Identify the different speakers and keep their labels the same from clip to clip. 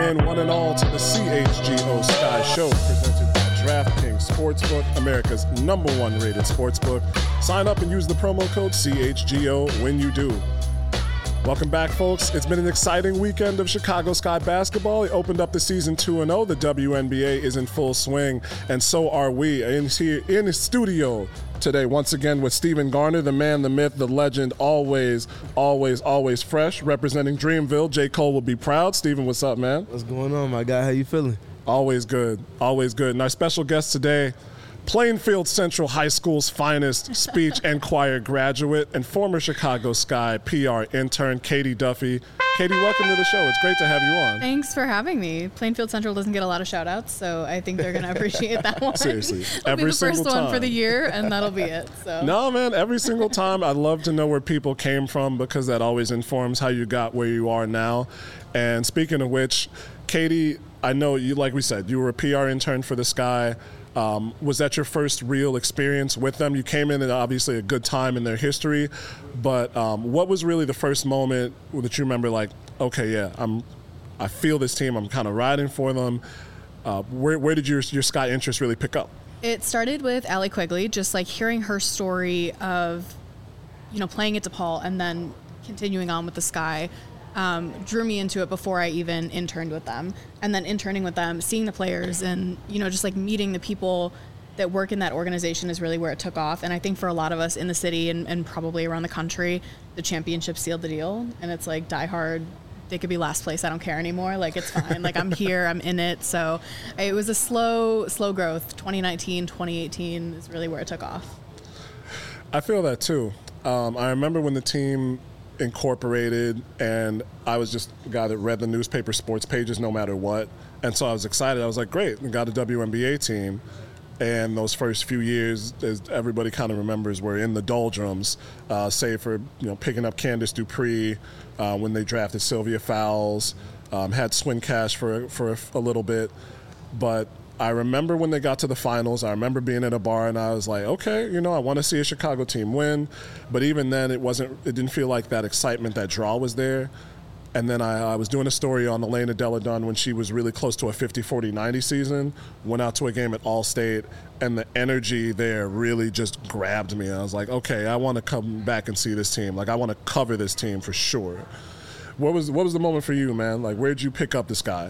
Speaker 1: in one and all to the CHGO Sky Show, presented by DraftKings Sportsbook, America's #1 rated sportsbook. Sign up and use the promo code CHGO when you do. Welcome back, folks. It's been an exciting weekend of Chicago Sky basketball. It opened up the season 2-0. The WNBA is in full swing, and so are we. Here in the studio today, once again, with Stephen Garner, the man, the myth, the legend, always fresh, representing Dreamville. J. Cole will be proud. Stephen, what's up, man?
Speaker 2: What's going on, my guy? How you feeling?
Speaker 1: Always good. And our special guest today, Plainfield Central High School's finest speech and choir graduate and former Chicago Sky PR intern, Katie Duffy. Katie, welcome to the show. It's great to have you on.
Speaker 3: Thanks for having me. Plainfield Central doesn't get a lot of shout-outs, so I think they're going to appreciate that one.
Speaker 1: Seriously.
Speaker 3: It'll be the first one for the year, and that'll be it. So.
Speaker 1: No, man, every single time. I love to know where people came from because that always informs how you got where you are now. And speaking of which, Katie, I know you, like we said, you were a PR intern for the Sky. Was that your first real experience with them? You came in at obviously a good time in their history, but what was really the first moment that you remember like, okay, yeah, I feel this team, I'm kind of riding for them. Where did your Sky interest really pick up?
Speaker 3: It started with Allie Quigley, just like hearing her story of, playing at DePaul and then continuing on with the Sky. Drew me into it before I even interned with them. And then interning with them, seeing the players and, just like meeting the people that work in that organization is really where it took off. And I think for a lot of us in the city and probably around the country, the championship sealed the deal. And it's like die hard. They could be last place. I don't care anymore. Like, it's fine. Like, I'm here. I'm in it. So it was a slow growth. 2019, 2018 is really where it took off.
Speaker 1: I feel that too. I remember when the team incorporated, and I was just a guy that read the newspaper sports pages no matter what, and so I was excited. I was like, great, we got a WNBA team. And those first few years, as everybody kind of remembers, were in the doldrums, save for picking up Candace Dupree when they drafted Sylvia Fowles, had Swin Cash for a little bit, but I remember when they got to the finals, I remember being at a bar and I was like, okay, I want to see a Chicago team win. But even then, it didn't feel like that excitement, that draw was there. And then I was doing a story on Elena Delle Donne when she was really close to a 50-40-90 season, went out to a game at All-State, and the energy there really just grabbed me. I was like, okay, I want to come back and see this team. Like, I want to cover this team for sure. What was the moment for you, man? Like, where'd you pick up the Sky?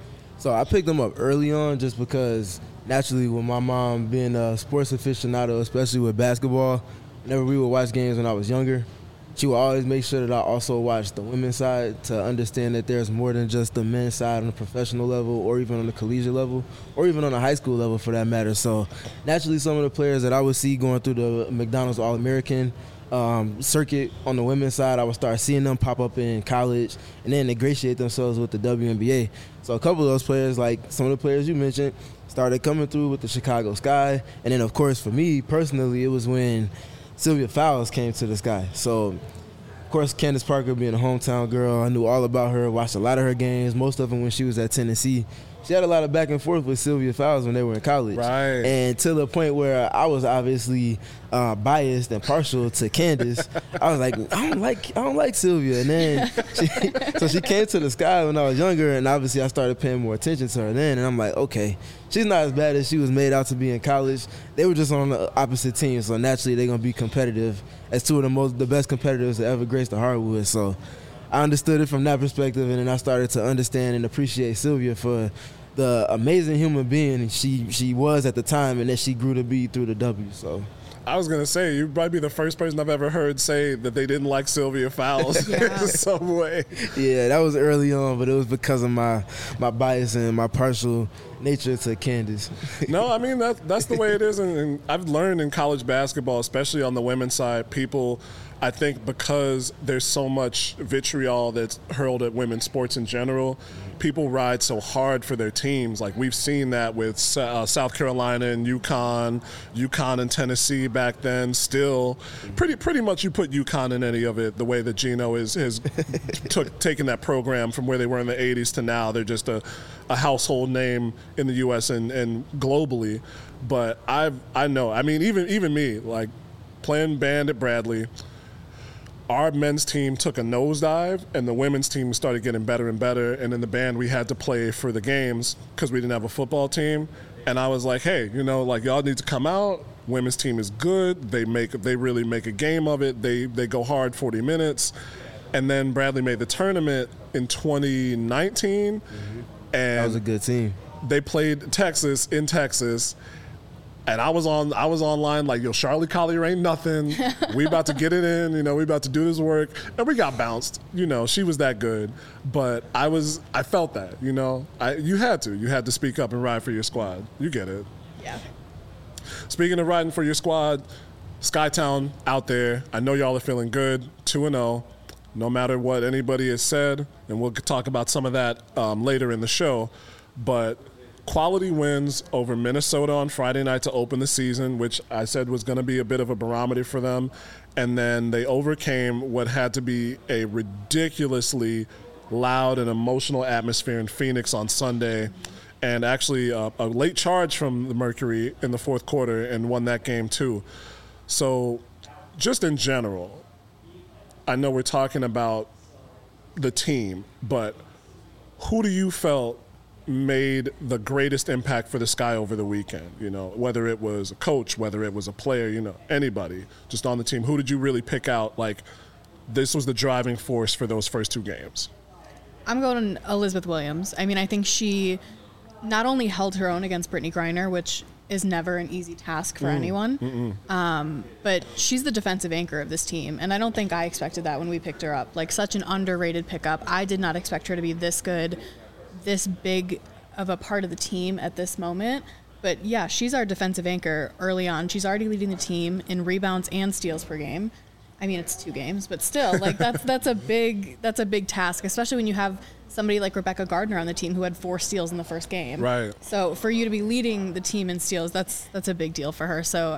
Speaker 2: So I picked them up early on just because naturally with my mom being a sports aficionado, especially with basketball, whenever we would watch games when I was younger, she would always make sure that I also watched the women's side to understand that there's more than just the men's side on the professional level or even on the collegiate level or even on the high school level for that matter. So naturally some of the players that I would see going through the McDonald's All-American circuit on the women's side, I would start seeing them pop up in college and then ingratiate themselves with the WNBA. So a couple of those players, like some of the players you mentioned, started coming through with the Chicago Sky. And then, of course, for me personally, it was when Sylvia Fowles came to the Sky. So, of course, Candace Parker being a hometown girl, I knew all about her, watched a lot of her games, most of them when she was at Tennessee. She had a lot of back and forth with Sylvia Fowles when they were in college.
Speaker 1: Right.
Speaker 2: And to the point where I was obviously biased and partial to Candace. I was like, I don't like Sylvia. And then she came to the Sky when I was younger, and obviously I started paying more attention to her then. And I'm like, okay, she's not as bad as she was made out to be in college. They were just on the opposite team, so naturally they're gonna be competitive as two of the best competitors that ever graced the hardwood. So I understood it from that perspective, and then I started to understand and appreciate Sylvia for the amazing human being she was at the time and that she grew to be through the W. So
Speaker 1: I was going to say, you might be the first person I've ever heard say that they didn't like Sylvia Fowles in some way.
Speaker 2: Yeah, that was early on, but it was because of my bias and my partial nature to Candace.
Speaker 1: No, I mean, that's the way it is. And I've learned in college basketball, especially on the women's side, people, I think because there's so much vitriol that's hurled at women's sports in general, people ride so hard for their teams. Like, we've seen that with South Carolina and UConn and Tennessee back then. Still, pretty much you put UConn in any of it, the way that Gino has taken that program from where they were in the 80s to now. They're just a household name in the U.S. and globally. But I know, I mean, even me, like, playing band at Bradley, our men's team took a nosedive and the women's team started getting better and better. And in the band, we had to play for the games because we didn't have a football team. And I was like, hey, like y'all need to come out. Women's team is good. They really make a game of it. They go hard 40 minutes. And then Bradley made the tournament in 2019. Mm-hmm. And
Speaker 2: that was a good team.
Speaker 1: They played Texas in Texas. And I was online like, yo, Charlie Collier ain't nothing. We about to get it in, we about to do this work. And we got bounced. She was that good. But I felt that, you had to speak up and ride for your squad. You get it.
Speaker 3: Yeah.
Speaker 1: Speaking of riding for your squad, Skytown out there. I know y'all are feeling good, 2-0, no matter what anybody has said. And we'll talk about some of that later in the show. But quality wins over Minnesota on Friday night to open the season, which I said was going to be a bit of a barometer for them. And then they overcame what had to be a ridiculously loud and emotional atmosphere in Phoenix on Sunday. And actually a late charge from the Mercury in the fourth quarter and won that game too. So just in general, I know we're talking about the team, but who do you felt made the greatest impact for the Sky over the weekend? Whether it was a coach, whether it was a player, anybody just on the team. Who did you really pick out? Like, this was the driving force for those first two games.
Speaker 3: I'm going Elizabeth Williams. I mean, I think she not only held her own against Brittany Griner, which is never an easy task for anyone, but she's the defensive anchor of this team. And I don't think I expected that when we picked her up. Like, such an underrated pickup. I did not expect her to be this good, this big of a part of the team at this moment. But yeah, she's our defensive anchor early on. She's already leading the team in rebounds and steals per game. I mean, it's 2 games, but still, like that's a big task, especially when you have somebody like Rebecca Gardner on the team who had 4 steals in the first game.
Speaker 1: Right.
Speaker 3: So for you to be leading the team in steals, that's a big deal for her. So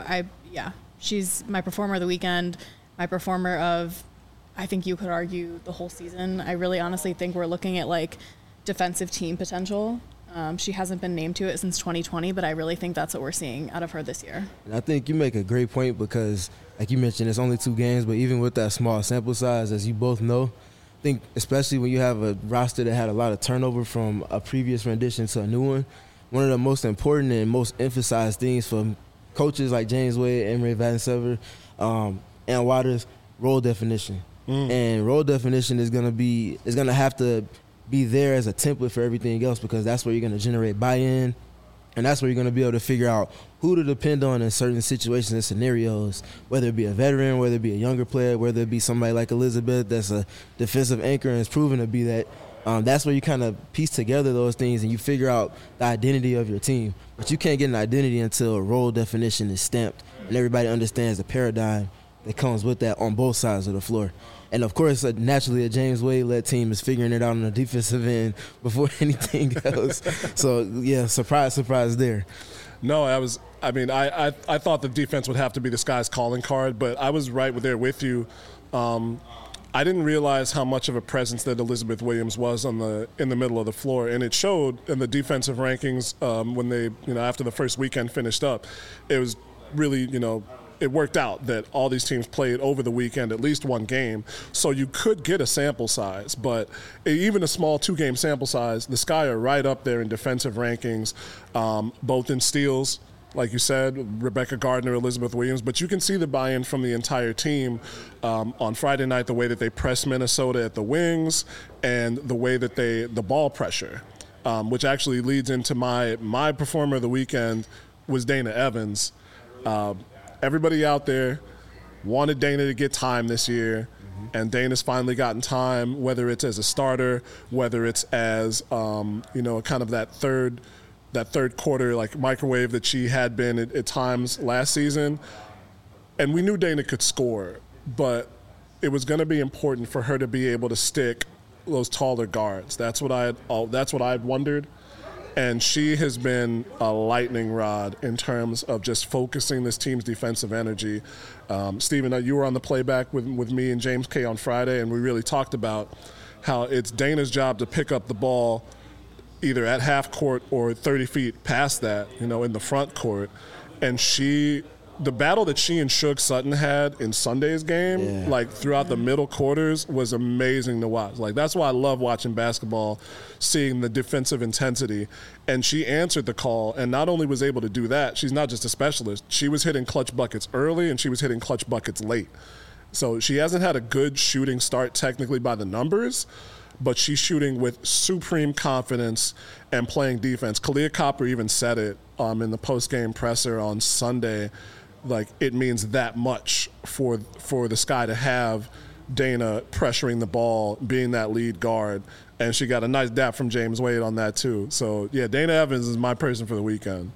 Speaker 3: she's my performer of the weekend, my performer of, I think you could argue, the whole season. I really honestly think we're looking at like defensive team potential. She hasn't been named to it since 2020, but I really think that's what we're seeing out of her this year.
Speaker 2: And I think you make a great point because, like you mentioned, it's only 2 games, but even with that small sample size, as you both know, I think especially when you have a roster that had a lot of turnover from a previous rendition to a new one of the most important and most emphasized things for coaches like James Wade, Emery Vansever, and Waters, role definition. And role definition is going to have to be there as a template for everything else, because that's where you're going to generate buy-in, and that's where you're going to be able to figure out who to depend on in certain situations and scenarios, whether it be a veteran, whether it be a younger player, whether it be somebody like Elizabeth that's a defensive anchor and is proven to be that. That's where you kind of piece together those things and you figure out the identity of your team. But you can't get an identity until a role definition is stamped and everybody understands the paradigm that comes with that on both sides of the floor. And, of course, naturally, a James Wade-led team is figuring it out on the defensive end before anything else. So, yeah, surprise there.
Speaker 1: No, I thought the defense would have to be the Sky's calling card, but I was right there with you. I didn't realize how much of a presence that Elizabeth Williams was in the middle of the floor, and it showed in the defensive rankings when they, after the first weekend finished up. It was really, it worked out that all these teams played over the weekend at least one game, so you could get a sample size. But even a small 2-game sample size, the Sky are right up there in defensive rankings, both in steals, like you said, Rebecca Gardner, Elizabeth Williams. But you can see the buy-in from the entire team on Friday night, the way that they pressed Minnesota at the wings and the way that the ball pressure, which actually leads into my performer of the weekend was Dana Evans. Everybody out there wanted Dana to get time this year, and Dana's finally gotten time, whether it's as a starter, whether it's as, kind of that third quarter, like microwave that she had been at times last season. And we knew Dana could score, but it was going to be important for her to be able to stick those taller guards. That's what I had wondered. And she has been a lightning rod in terms of just focusing this team's defensive energy. Stephen, you were on the playback with me and James K on Friday, and we really talked about how it's Dana's job to pick up the ball either at half court or 30 feet past that, in the front court. And she the battle that she and Suge Sutton had in Sunday's game, like throughout the middle quarters, was amazing to watch. Like, that's why I love watching basketball, seeing the defensive intensity. And she answered the call, and not only was able to do that, she's not just a specialist. She was hitting clutch buckets early, and she was hitting clutch buckets late. So she hasn't had a good shooting start technically by the numbers, but she's shooting with supreme confidence and playing defense. Kahleah Copper even said it in the post-game presser on Sunday. Like, it means that much for the Sky to have Dana pressuring the ball, being that lead guard. And she got a nice dap from James Wade on that too. So, yeah, Dana Evans is my person for the weekend.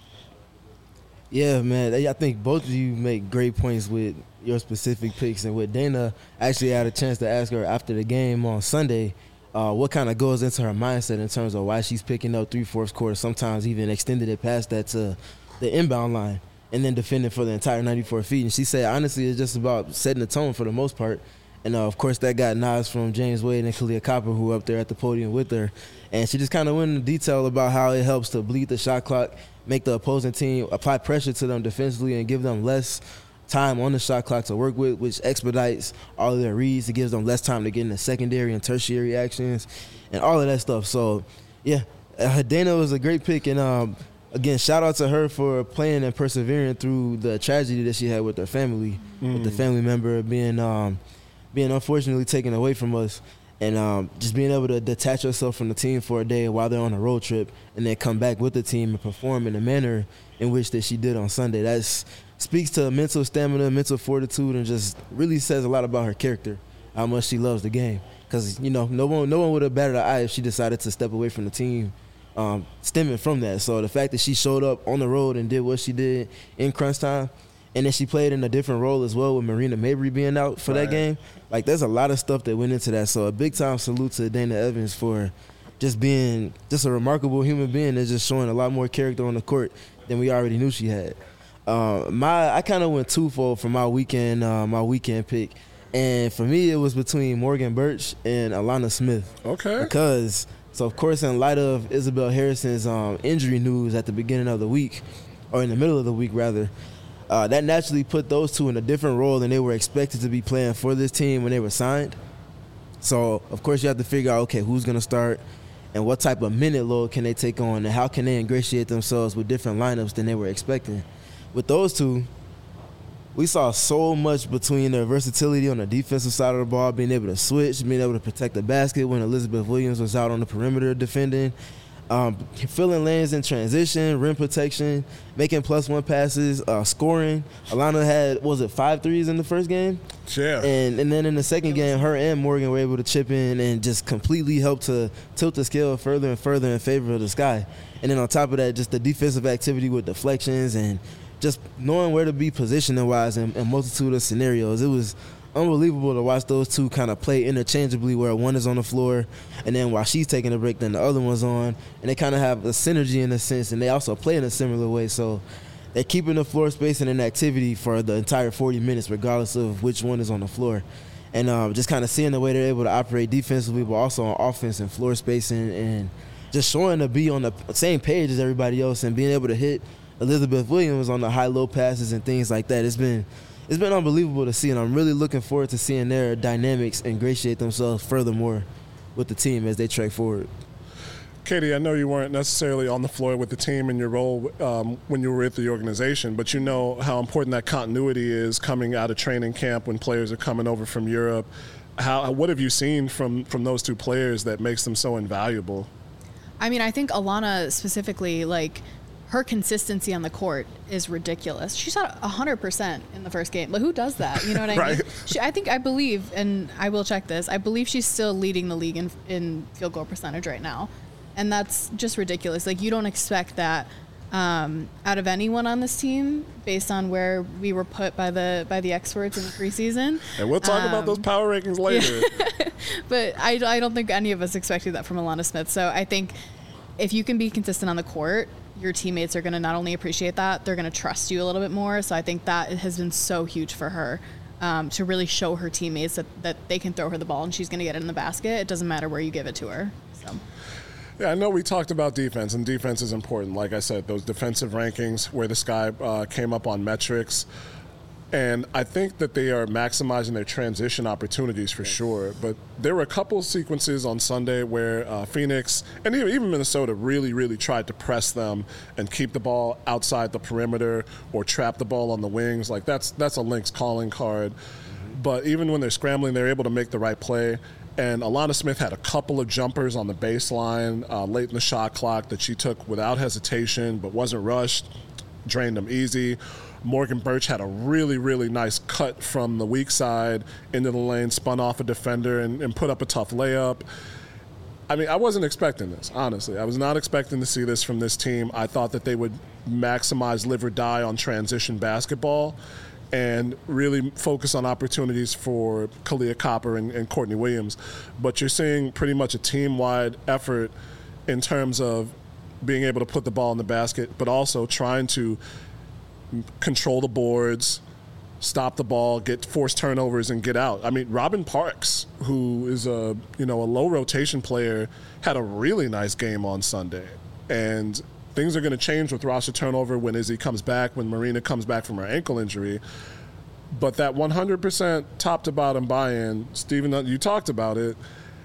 Speaker 2: Yeah, man. I think both of you make great points with your specific picks. And with Dana, I actually had a chance to ask her after the game on Sunday what kind of goes into her mindset in terms of why she's picking up 3/4 quarter, sometimes even extended it past that to the inbound line and then defending for the entire 94 feet. And she said, honestly, it's just about setting the tone for the most part. And, of course, that got nods from James Wade and Kahleah Copper, who were up there at the podium with her. And she just kind of went into detail about how it helps to bleed the shot clock, make the opposing team apply pressure to them defensively and give them less time on the shot clock to work with, which expedites all of their reads. It gives them less time to get into secondary and tertiary actions and all of that stuff. So, yeah, Dana was a great pick. And, again, shout out to her for playing and persevering through the tragedy that she had with her family, with the family member being unfortunately taken away from us. And just being able to detach yourself from the team for a day while they're on a road trip and then come back with the team and perform in the manner in which that she did on Sunday. That speaks to mental stamina, mental fortitude, and just really says a lot about her character, how much she loves the game. Because, you know, no one would have batted an eye if she decided to step away from the team stemming from that. So the fact that she showed up on the road and did what she did in crunch time, and then she played in a different role as well with Marina Mabry being out for that game. Like, there's a lot of stuff that went into that. So a big-time salute to Dana Evans for just being just a remarkable human being that's just showing a lot more character on the court than we already knew she had. I kind of went twofold for my weekend pick. And for me, it was between Morgan Birch and Alana Smith.
Speaker 1: Okay.
Speaker 2: Because, so of course, in light of Isabel Harrison's injury news at the beginning of the week, or in the middle of the week, rather, that naturally put those two in a different role than they were expected to be playing for this team when they were signed. So, of course, you have to figure out, okay, who's going to start and what type of minute load can they take on and how can they ingratiate themselves with different lineups than they were expecting. With those two, we saw so much between their versatility on the defensive side of the ball, being able to switch, being able to protect the basket when Elizabeth Williams was out on the perimeter defending, filling lanes in transition, rim protection, making +1 passes, scoring. Alana had, 5 threes in the first game?
Speaker 1: Yeah.
Speaker 2: And then in the second game, her and Morgan were able to chip in and just completely help to tilt the scale further and further in favor of the Sky. And then on top of that, just the defensive activity with deflections and just knowing where to be positioning-wise in a multitude of scenarios. It was unbelievable to watch those two kind of play interchangeably where one is on the floor and then while she's taking a break, then the other one's on. And they kind of have a synergy in a sense, and they also play in a similar way. So they're keeping the floor space and an activity for the entire 40 minutes regardless of which one is on the floor. And just kind of seeing the way they're able to operate defensively but also on offense and floor spacing and just showing to be on the same page as everybody else and being able to hit Elizabeth Williams on the high-low passes and things like that. It's been unbelievable to see, and I'm really looking forward to seeing their dynamics ingratiate themselves furthermore with the team as they trek forward.
Speaker 1: Katie, I know you weren't necessarily on the floor with the team in your role when you were with the organization, but you know how important that continuity is coming out of training camp when players are coming over from Europe. What have you seen from those two players that makes them so invaluable?
Speaker 3: I mean, I think Alana specifically, like, her consistency on the court is ridiculous. She shot 100% in the first game. Like, who does that? You know what I
Speaker 1: Right.
Speaker 3: mean? I believe, and I will check this, I believe she's still leading the league in field goal percentage right now. And that's just ridiculous. Like, you don't expect that out of anyone on this team based on where we were put by the experts in the preseason.
Speaker 1: And we'll talk about those power rankings later.
Speaker 3: Yeah. But I don't think any of us expected that from Alana Smith. So I think if you can be consistent on the court, your teammates are going to not only appreciate that, they're going to trust you a little bit more. So I think that has been so huge for her to really show her teammates that they can throw her the ball and she's going to get it in the basket. It doesn't matter where you give it to her. So.
Speaker 1: Yeah, I know we talked about defense, and defense is important. Like I said, those defensive rankings where the Sky came up on metrics. And I think that they are maximizing their transition opportunities for sure. But there were a couple of sequences on Sunday where Phoenix and even Minnesota really, really tried to press them and keep the ball outside the perimeter or trap the ball on the wings. Like that's a Lynx calling card. But even when they're scrambling, they're able to make the right play. And Alana Smith had a couple of jumpers on the baseline late in the shot clock that she took without hesitation but wasn't rushed, drained them easy. Morgan Birch had a really, really nice cut from the weak side into the lane, spun off a defender, and put up a tough layup. I mean, I wasn't expecting this, honestly. I was not expecting to see this from this team. I thought that they would maximize live or die on transition basketball and really focus on opportunities for Kalia Copper and Courtney Williams. But you're seeing pretty much a team-wide effort in terms of being able to put the ball in the basket, but also trying to control the boards, stop the ball, get forced turnovers, and get out. I mean, Robin Parks, who is a low rotation player, had a really nice game on Sunday. And things are going to change with roster turnover when Izzy comes back, when Marina comes back from her ankle injury. But that 100% top-to-bottom buy-in, Steven, you talked about it,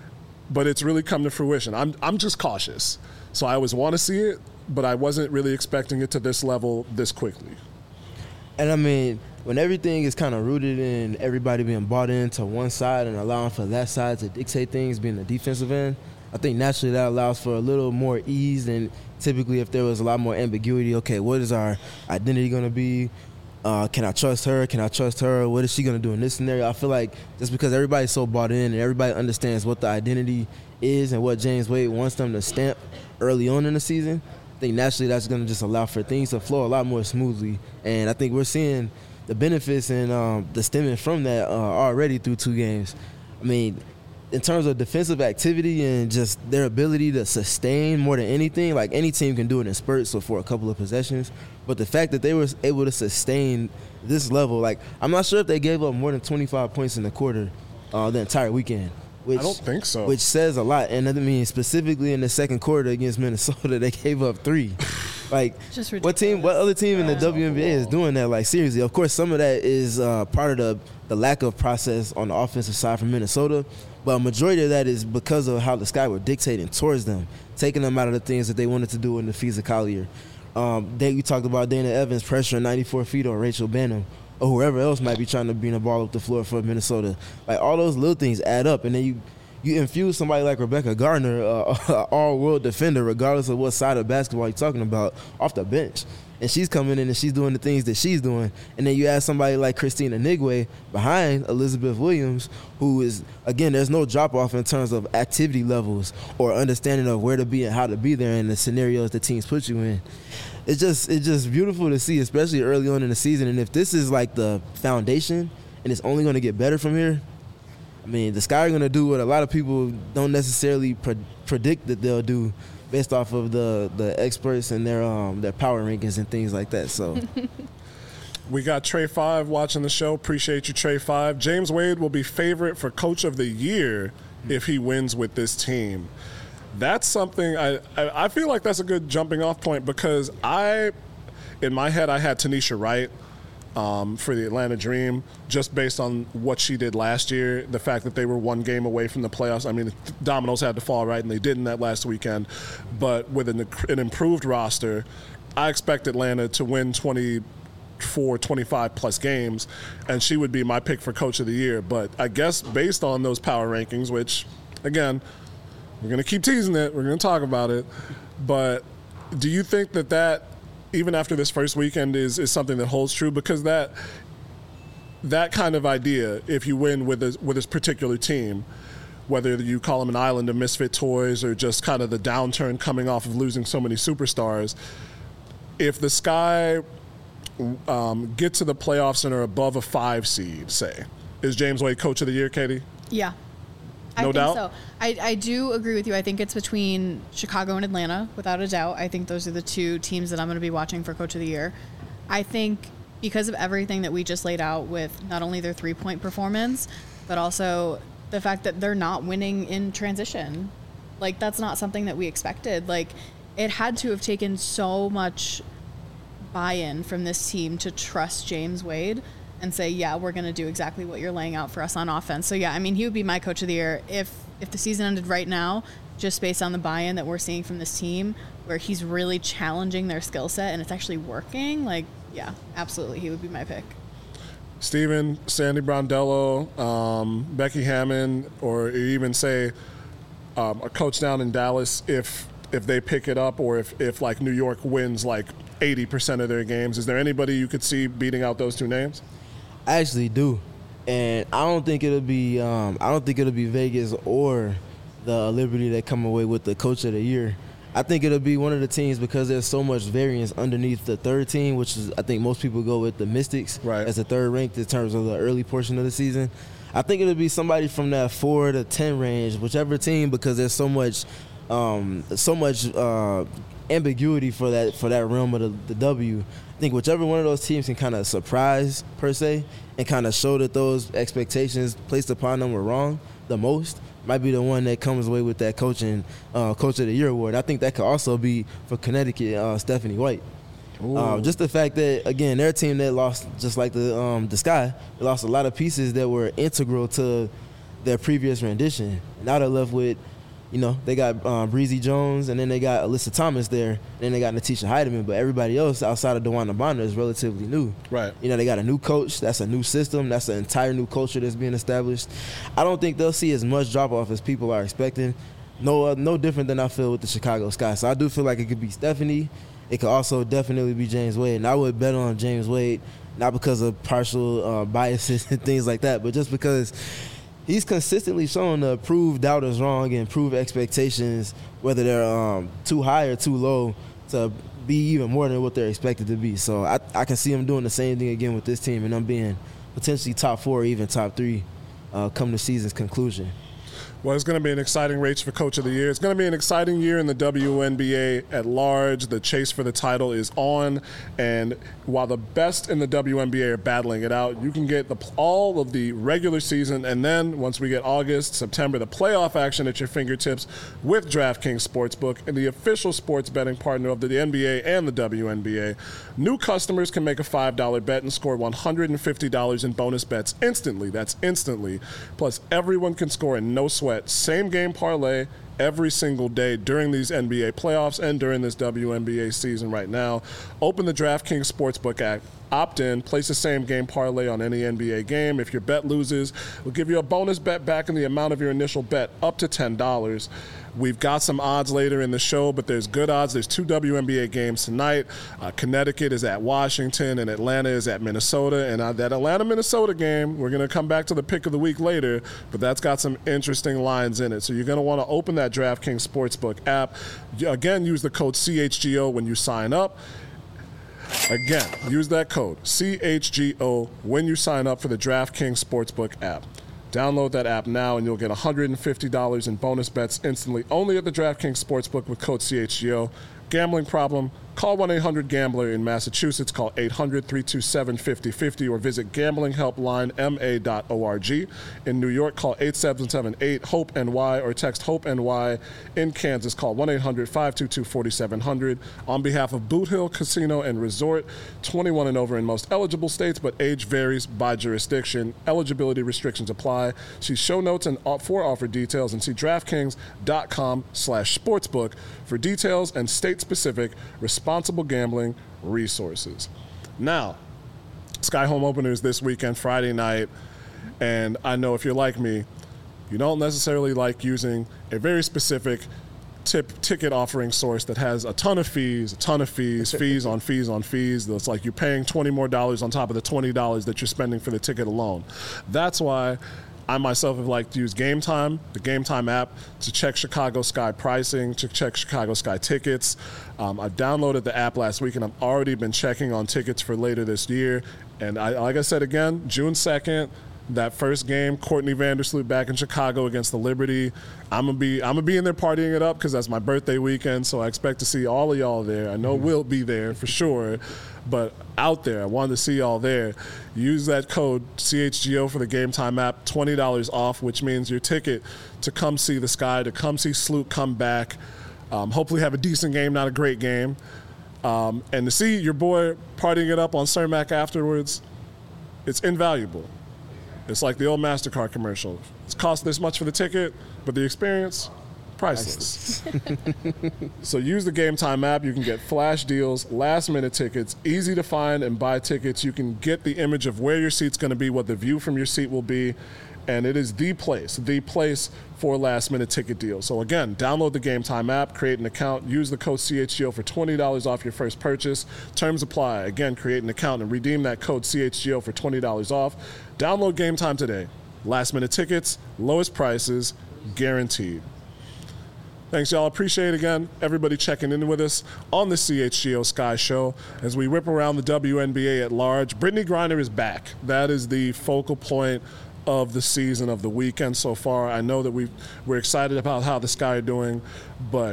Speaker 1: but it's really come to fruition. I'm just cautious. So I always want to see it, but I wasn't really expecting it to this level this quickly.
Speaker 2: And I mean, when everything is kind of rooted in everybody being bought into one side and allowing for that side to dictate things, being the defensive end, I think naturally that allows for a little more ease than typically if there was a lot more ambiguity. Okay, what is our identity going to be? Can I trust her? Can I trust her? What is she going to do in this scenario? I feel like just because everybody's so bought in and everybody understands what the identity is and what James Wade wants them to stamp early on in the season, I think naturally that's going to just allow for things to flow a lot more smoothly. And I think we're seeing the benefits and the stemming from that already through 2 games. I mean, in terms of defensive activity and just their ability to sustain more than anything, like any team can do it in spurts or for a couple of possessions. But the fact that they were able to sustain this level, like I'm not sure if they gave up more than 25 points in the quarter the entire weekend. I
Speaker 1: don't think so.
Speaker 2: Which says a lot. And I mean, specifically in the second quarter against Minnesota, they gave up 3. Like, what other team in the WNBA is doing that? Like, seriously. Of course, some of that is part of the lack of process on the offensive side from Minnesota. But a majority of that is because of how the Sky were dictating towards them, taking them out of the things that they wanted to do in the Fiza Collier. We talked about Dana Evans pressuring 94 feet on Rachel Banham, or whoever else might be trying to bring the ball up the floor for Minnesota. Like, all those little things add up, and then you infuse somebody like Rebecca Gardner, an all-world defender, regardless of what side of basketball you're talking about, off the bench. And she's coming in and she's doing the things that she's doing. And then you add somebody like Christina Nigwe behind Elizabeth Williams, who is, again, there's no drop-off in terms of activity levels or understanding of where to be and how to be there in the scenarios the teams put you in. It's just beautiful to see, especially early on in the season. And if this is like the foundation and it's only going to get better from here, I mean, the Sky are going to do what a lot of people don't necessarily predict that they'll do based off of the experts and their power rankings and things like that. So
Speaker 1: we got Trey 5 watching the show. Appreciate you, Trey 5. James Wade will be favorite for Coach of the Year if he wins with this team. That's something I feel like that's a good jumping off point because in my head, I had Tanisha Wright for the Atlanta Dream, just based on what she did last year, the fact that they were 1 game away from the playoffs. I mean, the dominoes had to fall right, and they didn't that last weekend. But with an improved roster, I expect Atlanta to win 24, 25-plus games, and she would be my pick for Coach of the Year. But I guess based on those power rankings, which, again, we're going to keep teasing it, we're going to talk about it, but do you think that even after this first weekend is something that holds true? Because that kind of idea, if you win with this particular team, whether you call them an island of misfit toys or just kind of the downturn coming off of losing so many superstars, if the Sky get to the playoffs and are above a 5 seed, say, is James Wade Coach of the Year, Katie?
Speaker 3: Yeah.
Speaker 1: No doubt?
Speaker 3: So. I do agree with you. I think it's between Chicago and Atlanta, without a doubt. I think those are the 2 teams that I'm going to be watching for Coach of the Year. I think because of everything that we just laid out with not only their 3-point performance, but also the fact that they're not winning in transition. Like, that's not something that we expected. Like, it had to have taken so much buy-in from this team to trust James Wade and say, yeah, we're going to do exactly what you're laying out for us on offense. So, yeah, I mean, he would be my coach of the year if the season ended right now, just based on the buy-in that we're seeing from this team, where he's really challenging their skill set and it's actually working. Like, yeah, absolutely, he would be my pick.
Speaker 1: Steven, Sandy Brondello, Becky Hammond, or even say a coach down in Dallas, if they pick it up, or if like New York wins like 80% of their games, is there anybody you could see beating out those two names?
Speaker 2: I actually do, and I don't think it'll be Vegas or the Liberty that come away with the coach of the year. I think it'll be one of the teams, because there's so much variance underneath the third team, which is, I think most people go with the Mystics as the third ranked in terms of the early portion of the season. I think it'll be somebody from that 4 to 10 range, whichever team, because there's so much ambiguity for that realm of the W. I think whichever one of those teams can kind of surprise, per se, and kind of show that those expectations placed upon them were wrong the most, might be the one that comes away with that coach of the year award. I think that could also be for Connecticut, Stephanie White. Just the fact that, again, their team that lost, just like the Sky, they lost a lot of pieces that were integral to their previous rendition. Now they're left with, they got Breezy Jones, and then they got Alyssa Thomas there, and then they got Natisha Heidemann, but everybody else outside of DeWanda Bonner is relatively new.
Speaker 1: Right.
Speaker 2: They got a new coach. That's a new system. That's an entire new culture that's being established. I don't think they'll see as much drop-off as people are expecting. No different than I feel with the Chicago Sky. So I do feel like it could be Stephanie. It could also definitely be James Wade. And I would bet on James Wade, not because of partial biases and things like that, but just because he's consistently shown to prove doubters wrong and prove expectations, whether they're too high or too low, to be even more than what they're expected to be. So I can see him doing the same thing again with this team, and them being potentially top 4 or even top 3 come the season's conclusion.
Speaker 1: Well, it's going to be an exciting race for Coach of the Year. It's going to be an exciting year in the WNBA at large. The chase for the title is on, and while the best in the WNBA are battling it out, you can get all of the regular season, and then once we get August, September, the playoff action at your fingertips with DraftKings Sportsbook, and the official sports betting partner of the NBA and the WNBA. New customers can make a $5 bet and score $150 in bonus bets instantly. That's instantly. Plus, everyone can score in no sweat. Same game parlay every single day during these NBA playoffs and during this WNBA season right now. Open the DraftKings Sportsbook app, opt in, place a same game parlay on any NBA game. If your bet loses, we'll give you a bonus bet back in the amount of your initial bet, up to $10. We've got some odds later in the show, but there's good odds. There's 2 WNBA games tonight. Connecticut is at Washington, and Atlanta is at Minnesota. And that Atlanta-Minnesota game, we're going to come back to the pick of the week later, but that's got some interesting lines in it. So you're going to want to open that DraftKings Sportsbook app. Again, use the code CHGO when you sign up. Again, use that code CHGO when you sign up for the DraftKings Sportsbook app. Download that app now, and you'll get $150 in bonus bets instantly, only at the DraftKings Sportsbook with code CHGO. Gambling problem? Call 1-800-GAMBLER in Massachusetts. Call 800-327-5050 or visit gamblinghelplinema.org. In New York, call 877-8-HOPE-NY or text HOPE-NY. In Kansas, call 1-800-522-4700. On behalf of Boot Hill Casino and Resort, 21 and over in most eligible states, but age varies by jurisdiction. Eligibility restrictions apply. See show notes and for offer details, and see DraftKings.com/sportsbook for details and state-specific responsible gambling resources. Now, Sky Home Openers this weekend, Friday night, and I know if you're like me, you don't necessarily like using a very specific ticket offering source that has a ton of fees, fees on fees on fees. That's like you're paying $20 more on top of the $20 that you're spending for the ticket alone. That's why I myself have liked to use Game Time, the Game Time app, to check Chicago Sky pricing, to check Chicago Sky tickets. I downloaded the app last week, and I've already been checking on tickets for later this year. And like I said again, June 2nd, that first game, Courtney Vandersloot back in Chicago against the Liberty. I'm gonna be in there partying it up because that's my birthday weekend. So I expect to see all of y'all there. I know we'll be there for sure, but out there, I wanted to see y'all there. Use that code CHGO for the Game Time app, $20 off, which means your ticket to come see the Sky, to come see Sloot come back. Hopefully have a decent game, not a great game. And to see your boy partying it up on Cermak afterwards, it's invaluable. It's like the old MasterCard commercial. It's cost this much for the ticket, but the experience, priceless. So use the Game Time app. You can get flash deals, last-minute tickets, easy to find and buy tickets. You can get the image of where your seat's going to be, what the view from your seat will be, and it is the place for last-minute ticket deals. So again, download the Game Time app, create an account, use the code CHGO for $20 off your first purchase. Terms apply. Again, create an account and redeem that code CHGO for $20 off. Download Game Time today. Last-minute tickets, lowest prices, guaranteed. Thanks, y'all. Appreciate it again. Everybody checking in with us on the CHGO Sky Show as we whip around the WNBA at large. Brittney Griner is back. That is the focal point of the season, of the weekend so far. I know that we're excited about how the Sky are doing, but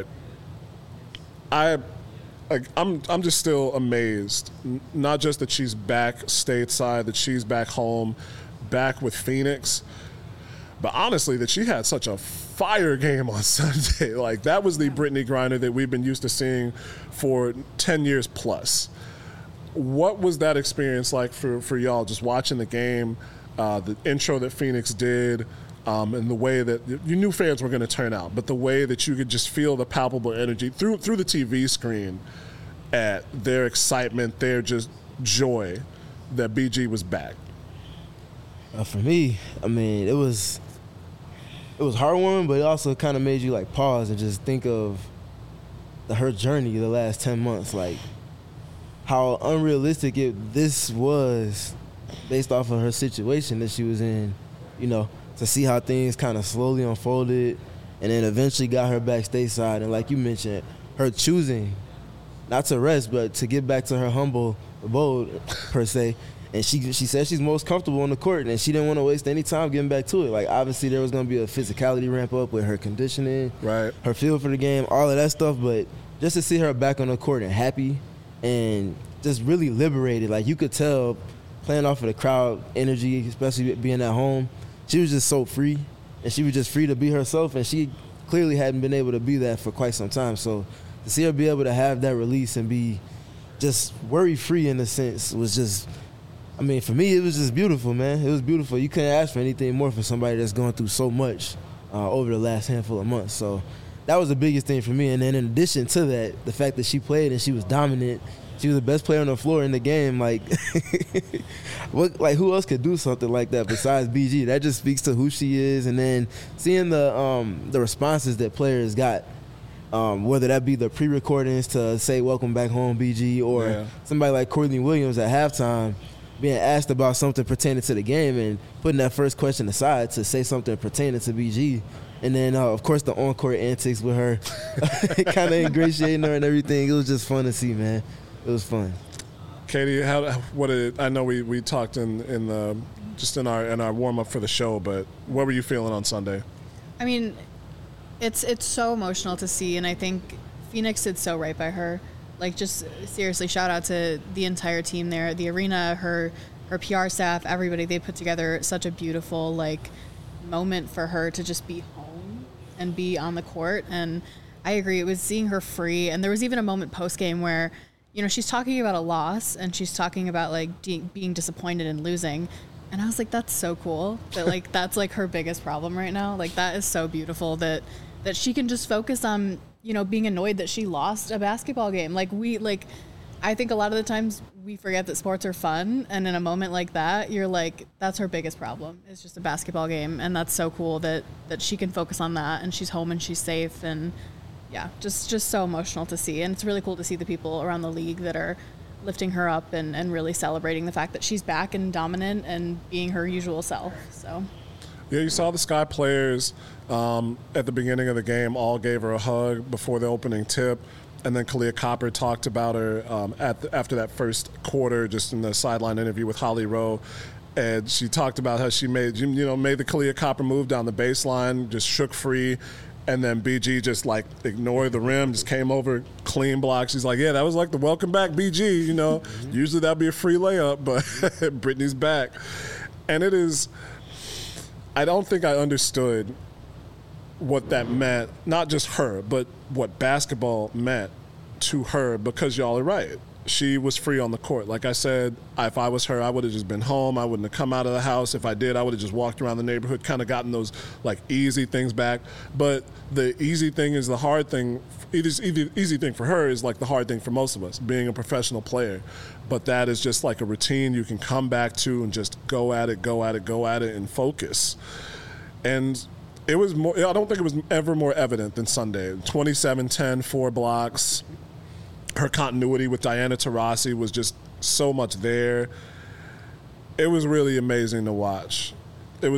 Speaker 1: I'm just still amazed. Not just that she's back stateside, that she's back home, back with Phoenix, but honestly that she had such a fire game on Sunday. Like, that was the Brittney Griner that we've been used to seeing for 10 years plus. What was that experience like for y'all, just watching the game? The intro that Phoenix did, and the way that you knew fans were going to turn out, but the way that you could just feel the palpable energy through the TV screen at their excitement, their just joy that BG was back.
Speaker 2: For me, I mean, it was heartwarming, but it also kind of made you like pause and just think of her journey the last 10 months, like how unrealistic this was based off of her situation that she was in, to see how things kind of slowly unfolded and then eventually got her back stateside. And like you mentioned, her choosing not to rest, but to get back to her humble abode, per se. And she said she's most comfortable on the court, and she didn't want to waste any time getting back to it. Like, obviously there was going to be a physicality ramp up with her conditioning,
Speaker 1: right,
Speaker 2: her feel for the game, all of that stuff. But just to see her back on the court and happy and just really liberated, like you could tell, playing off of the crowd energy, especially being at home, she was just so free, and she was just free to be herself, and she clearly hadn't been able to be that for quite some time. So to see her be able to have that release and be just worry-free in a sense was just, I mean, for me, it was just beautiful, man. It was beautiful. You couldn't ask for anything more for somebody that's going through so much over the last handful of months. So that was the biggest thing for me. And then in addition to that, the fact that she played and she was dominant, she was the best player on the floor in the game. Like, who else could do something like that besides BG? That just speaks to who she is. And then seeing the responses that players got, whether that be the pre-recordings to say "Welcome back home, BG," or somebody like Courtney Williams at halftime being asked about something pertaining to the game and putting that first question aside to say something pertaining to BG. And then, of course, the on-court antics with her, kind of ingratiating her and everything. It was just fun to see, man. It was fun.
Speaker 1: Katie, I know we talked in our warm up for the show, but what were you feeling on Sunday?
Speaker 3: I mean, it's so emotional to see, and I think Phoenix did so right by her. Like, just seriously, shout out to the entire team there, the arena, her PR staff, everybody. They put together such a beautiful moment for her to just be home and be on the court. And I agree, it was seeing her free, and there was even a moment post game where, she's talking about a loss and she's talking about being disappointed and losing. And I was like, that's so cool that that's her biggest problem right now. Like, that is so beautiful that she can just focus on, being annoyed that she lost a basketball game. I think a lot of the times we forget that sports are fun. And in a moment like that, you're like, that's her biggest problem. It's just a basketball game. And that's so cool that she can focus on that, and she's home and she's safe. And yeah, just so emotional to see. And it's really cool to see the people around the league that are lifting her up and really celebrating the fact that she's back and dominant and being her usual self. So,
Speaker 1: yeah, you saw the Sky players at the beginning of the game all gave her a hug before the opening tip. And then Kalia Copper talked about her after that first quarter, just in the sideline interview with Holly Rowe. And she talked about how she made the Kahleah Copper move down the baseline, just shook free, and then BG just like ignored the rim, just came over, clean block. She's like, yeah, that was like the welcome back BG, Usually that'd be a free layup, but Brittany's back. And it is, I don't think I understood what that meant, not just her, but what basketball meant to her, because y'all are right. She was free on the court. Like I said, if I was her, I would have just been home. I wouldn't have come out of the house. If I did, I would have just walked around the neighborhood, kind of gotten those like easy things back. But the easy thing is the hard thing. Easy thing for her is like the hard thing for most of us, being a professional player. But that is just like a routine you can come back to and just go at it, and focus. And it was more. I don't think it was ever more evident than Sunday. 27-10, 4 blocks. Her continuity with Diana Taurasi was just so much there. It was really amazing to watch. It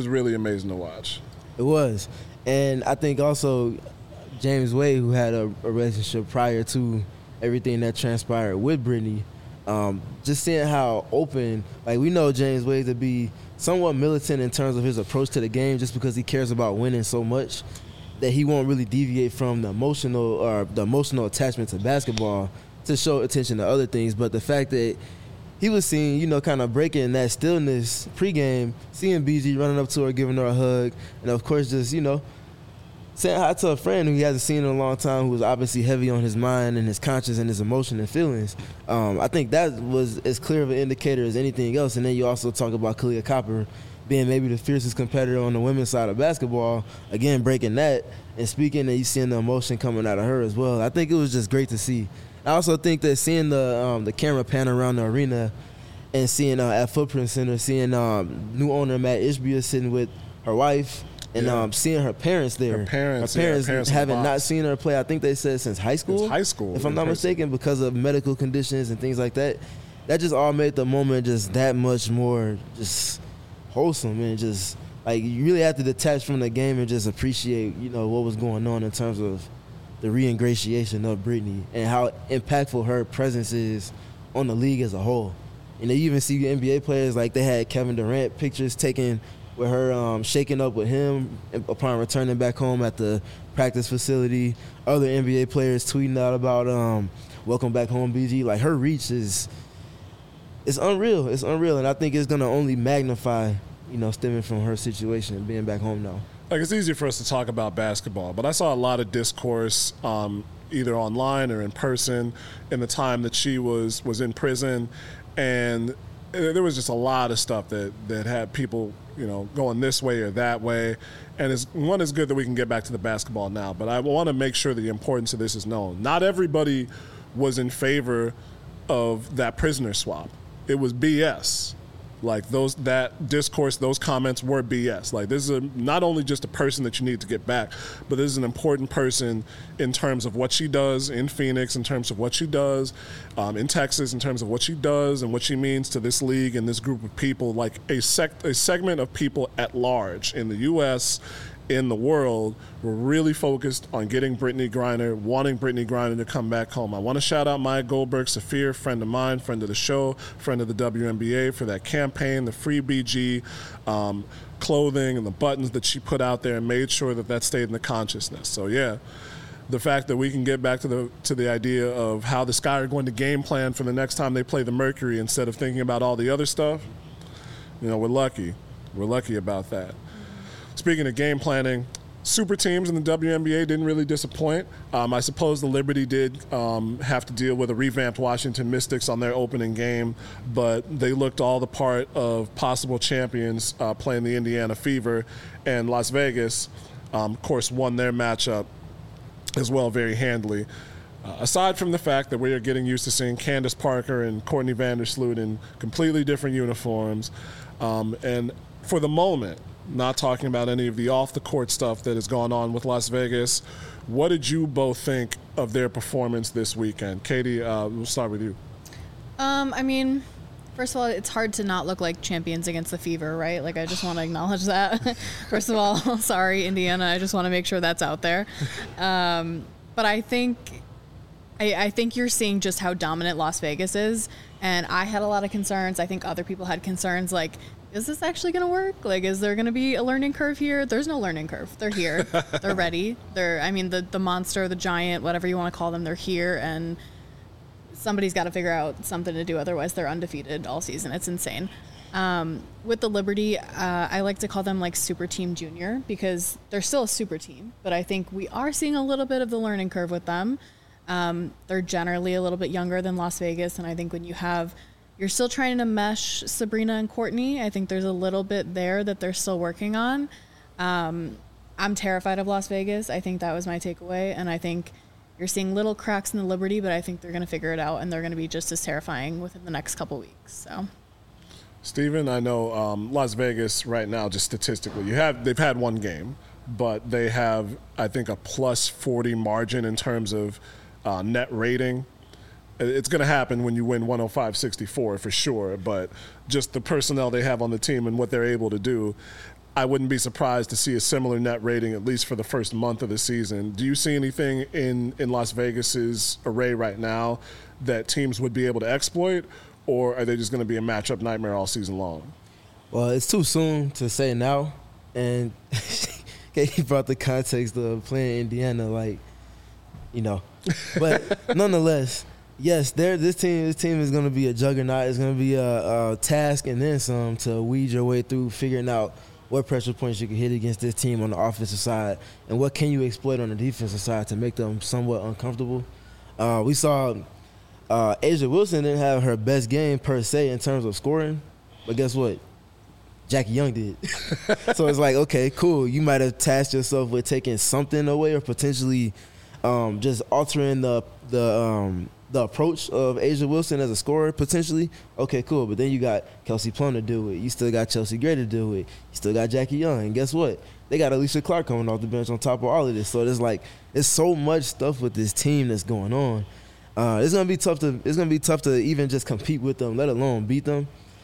Speaker 2: was. And I think also James Wade, who had a relationship prior to everything that transpired with Brittany, just seeing how open, like we know James Wade to be somewhat militant in terms of his approach to the game, just because he cares about winning so much that he won't really deviate from the emotional attachment to basketball to show attention to other things. But the fact that he was seen, kind of breaking that stillness pregame, seeing BG running up to her, giving her a hug, and of course just, saying hi to a friend who he hasn't seen in a long time, who was obviously heavy on his mind and his conscience and his emotion and feelings. I think that was as clear of an indicator as anything else. And then you also talk about Kahleah Copper being maybe the fiercest competitor on the women's side of basketball, again, breaking that and speaking, and you seeing the emotion coming out of her as well. I think it was just great to see. I also think that seeing the camera pan around the arena and seeing at Footprint Center, seeing new owner Matt Ishbia sitting with her wife and seeing her parents there. Her parents having not seen her play, I think they said since high school.
Speaker 1: Since high school.
Speaker 2: If I'm not mistaken, because of medical conditions and things like that. That just all made the moment just that much more just wholesome, and just like you really have to detach from the game and just appreciate, what was going on in terms of the re-ingratiation of Brittany and how impactful her presence is on the league as a whole. You even see NBA players, like they had Kevin Durant pictures taken with her shaking up with him upon returning back home at the practice facility. Other NBA players tweeting out about welcome back home, BG. Like her reach it's unreal. It's unreal, and I think it's gonna only magnify, stemming from her situation and being back home now.
Speaker 1: Like, it's easier for us to talk about basketball, but I saw a lot of discourse either online or in person in the time that she was in prison, and there was just a lot of stuff that had people, going this way or that way. And it's good that we can get back to the basketball now, but I want to make sure the importance of this is known. Not everybody was in favor of that prisoner swap. It was BS. Like that discourse, those comments were BS. Like, this is not only just a person that you need to get back, but this is an important person in terms of what she does in Phoenix, in terms of what she does in Texas, in terms of what she does and what she means to this league and this group of people, like a segment of people at large in the U.S., in the world. We're really focused on getting Brittany Griner, wanting Brittany Griner to come back home. I want to shout out Maya Goldberg Saphir, friend of mine, friend of the show, friend of the WNBA, for that campaign, the free BG clothing and the buttons that she put out there, and made sure that stayed in the consciousness. So yeah, the fact that we can get back to the idea of how the Sky are going to game plan for the next time they play the Mercury instead of thinking about all the other stuff, we're lucky. We're lucky about that. Speaking of game planning, super teams in the WNBA didn't really disappoint. I suppose the Liberty did have to deal with a revamped Washington Mystics on their opening game, but they looked all the part of possible champions playing the Indiana Fever, and Las Vegas, of course, won their matchup as well very handily. Aside from the fact that we are getting used to seeing Candace Parker and Courtney Vandersloot in completely different uniforms, and for the moment, not talking about any of the off-the-court stuff that has gone on with Las Vegas, what did you both think of their performance this weekend? Katie, we'll start with you.
Speaker 3: First of all, it's hard to not look like champions against the Fever, right? Like, I just want to acknowledge that. First of all, sorry, Indiana. I just want to make sure that's out there. But I think you're seeing just how dominant Las Vegas is. And I had a lot of concerns. I think other people had concerns. Like, is this actually going to work? Like, is there going to be a learning curve here? There's no learning curve. They're here. They're ready. The monster, the giant, whatever you want to call them, they're here, and somebody's got to figure out something to do. Otherwise, they're undefeated all season. It's insane. With the Liberty, I like to call them like Super Team Junior because they're still a super team, but I think we are seeing a little bit of the learning curve with them. They're generally a little bit younger than Las Vegas, and I think when you're still trying to mesh Sabrina and Courtney, I think there's a little bit there that they're still working on. I'm terrified of Las Vegas. I think that was my takeaway, and I think you're seeing little cracks in the Liberty, but I think they're going to figure it out, and they're going to be just as terrifying within the next couple weeks. So.
Speaker 1: Steven, I know Las Vegas right now, just statistically, they've had one game, but they have, I think, a plus 40 margin in terms of net rating. It's going to happen when you win 105-64 for sure, but just the personnel they have on the team and what they're able to do, I wouldn't be surprised to see a similar net rating at least for the first month of the season. Do you see anything in Las Vegas's array right now that teams would be able to exploit? Or are they just going to be a matchup nightmare all season long?
Speaker 2: Well, it's too soon to say now. And he brought the context of playing Indiana, But nonetheless, yes, this team is going to be a juggernaut. It's going to be a task and then some to weed your way through figuring out what pressure points you can hit against this team on the offensive side and what can you exploit on the defensive side to make them somewhat uncomfortable. We saw A'ja Wilson didn't have her best game per se in terms of scoring, but guess what? Jackie Young did. So it's like, okay, cool. You might have tasked yourself with taking something away or potentially just altering the approach of A'ja Wilson as a scorer potentially. Okay, cool. But then you got Kelsey Plum to do it. You still got Chelsea Gray to do it. You still got Jackie Young. And guess what? They got Alicia Clark coming off the bench on top of all of this. So there's so much stuff with this team that's going on. It's gonna be tough to even just compete with them, let alone beat them.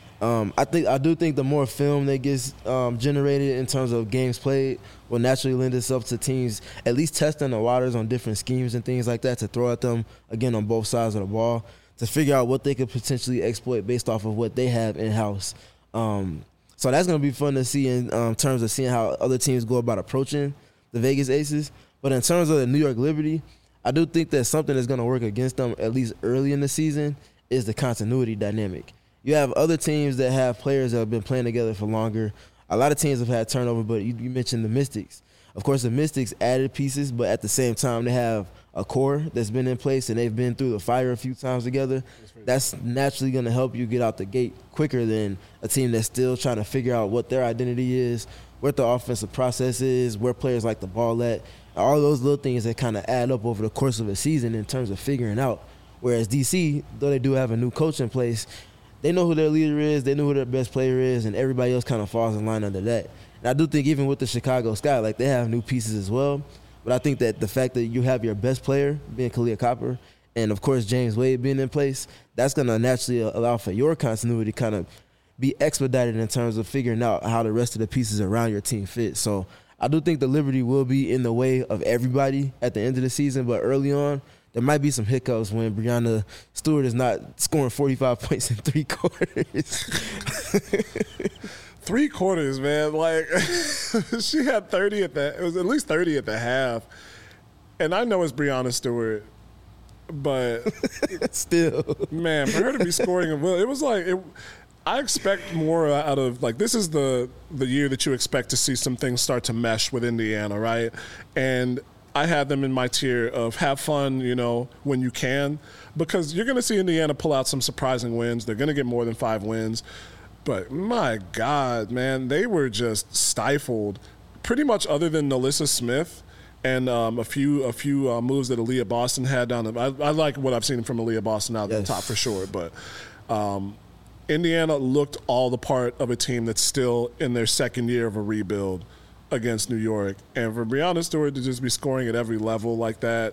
Speaker 2: I do think the more film that gets generated in terms of games played will naturally lend itself to teams at least testing the waters on different schemes and things like that to throw at them again on both sides of the ball to figure out what they could potentially exploit based off of what they have in house. So that's gonna be fun to see in terms of seeing how other teams go about approaching the Vegas Aces. But in terms of the New York Liberty, I do think that something that's going to work against them, at least early in the season, is the continuity dynamic. You have other teams that have players that have been playing together for longer. A lot of teams have had turnover, but you mentioned the Mystics. Of course, the Mystics added pieces, but at the same time, they have a core that's been in place, and they've been through the fire a few times together. That's naturally going to help you get out the gate quicker than a team that's still trying to figure out what their identity is, what the offensive process is, where players like the ball at. All those little things that kind of add up over the course of a season in terms of figuring out. Whereas DC, though they do have a new coach in place, they know who their leader is, they know who their best player is, and everybody else kind of falls in line under that. And I do think even with the Chicago Sky, they have new pieces as well. But I think that the fact that you have your best player being Kalia Copper and, of course, James Wade being in place, that's going to naturally allow for your continuity to kind of be expedited in terms of figuring out how the rest of the pieces around your team fit. So I do think the Liberty will be in the way of everybody at the end of the season, but early on, there might be some hiccups when Breanna Stewart is not scoring 45 points in 3 quarters.
Speaker 1: 3 quarters, man. She had 30 it was at least 30 at the half. And I know it's Breanna Stewart, but
Speaker 2: still,
Speaker 1: man, for her to be scoring it was I expect more out of this is the year that you expect to see some things start to mesh with Indiana, right? And I had them in my tier of have fun, when you can, because you're going to see Indiana pull out some surprising wins. They're going to get more than 5 wins. But my God, man, they were just stifled pretty much other than Nalissa Smith and a few moves that Aaliyah Boston had down the I like what I've seen from Aaliyah Boston out at the top for sure, but Indiana looked all the part of a team that's still in their second year of a rebuild against New York. And for Breanna Stewart to just be scoring at every level like that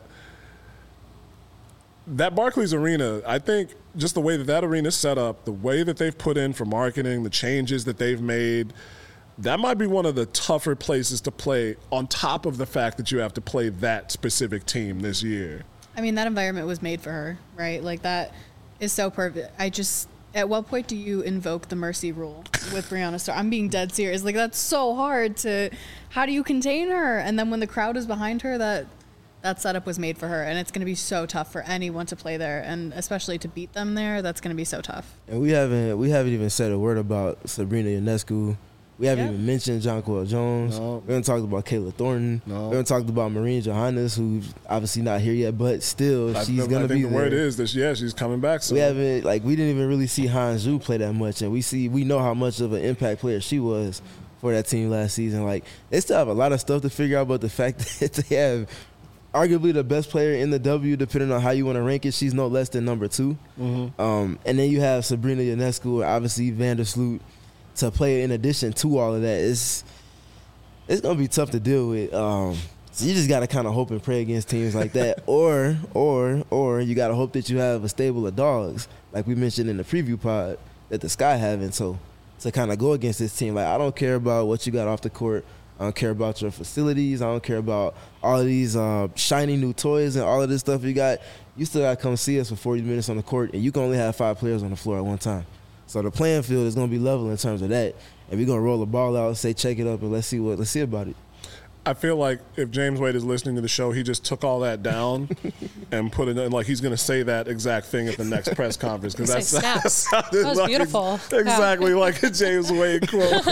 Speaker 1: Barclays Arena, I think just the way that arena is set up, the way that they've put in for marketing, the changes that they've made, that might be one of the tougher places to play on top of the fact that you have to play that specific team this year.
Speaker 3: I mean, that environment was made for her, right? That is so perfect. At what point do you invoke the mercy rule with Brianna Starr? I'm being dead serious. Like, that's so hard to. How do you contain her? And then when the crowd is behind her, that setup was made for her, and it's going to be so tough for anyone to play there, and especially to beat them there. That's going to be so tough.
Speaker 2: And we haven't even said a word about Sabrina Ionescu. We haven't even mentioned Jonquel Jones.
Speaker 1: No.
Speaker 2: We haven't talked about Kayla Thornton.
Speaker 1: No.
Speaker 2: We haven't talked about Marine Johannes, who's obviously not here yet, but still, she's going to be there.
Speaker 1: The word is that, she's coming back soon.
Speaker 2: We didn't even really see Han Zhu play that much, and we know how much of an impact player she was for that team last season. Like, they still have a lot of stuff to figure out, but the fact that they have arguably the best player in the W, depending on how you want to rank it, she's no less than number 2.
Speaker 1: Mm-hmm.
Speaker 2: And then you have Sabrina Ionescu, obviously Vandersloot, to play in addition to all of that. It's going to be tough to deal with. So you just got to kind of hope and pray against teams like that. or you got to hope that you have a stable of dogs, like we mentioned in the preview pod, that the Sky having. So to kind of go against this team, like, I don't care about what you got off the court. I don't care about your facilities. I don't care about all of these shiny new toys and all of this stuff you got. You still got to come see us for 40 minutes on the court, and you can only have 5 players on the floor at one time. So the playing field is going to be level in terms of that, and we're going to roll the ball out, say check it up, and let's see about it.
Speaker 1: I feel like if James Wade is listening to the show, he just took all that down and put it in, like he's going to say that exact thing at the next press conference, because that
Speaker 4: was
Speaker 1: like,
Speaker 4: beautiful.
Speaker 1: Exactly like a James Wade quote.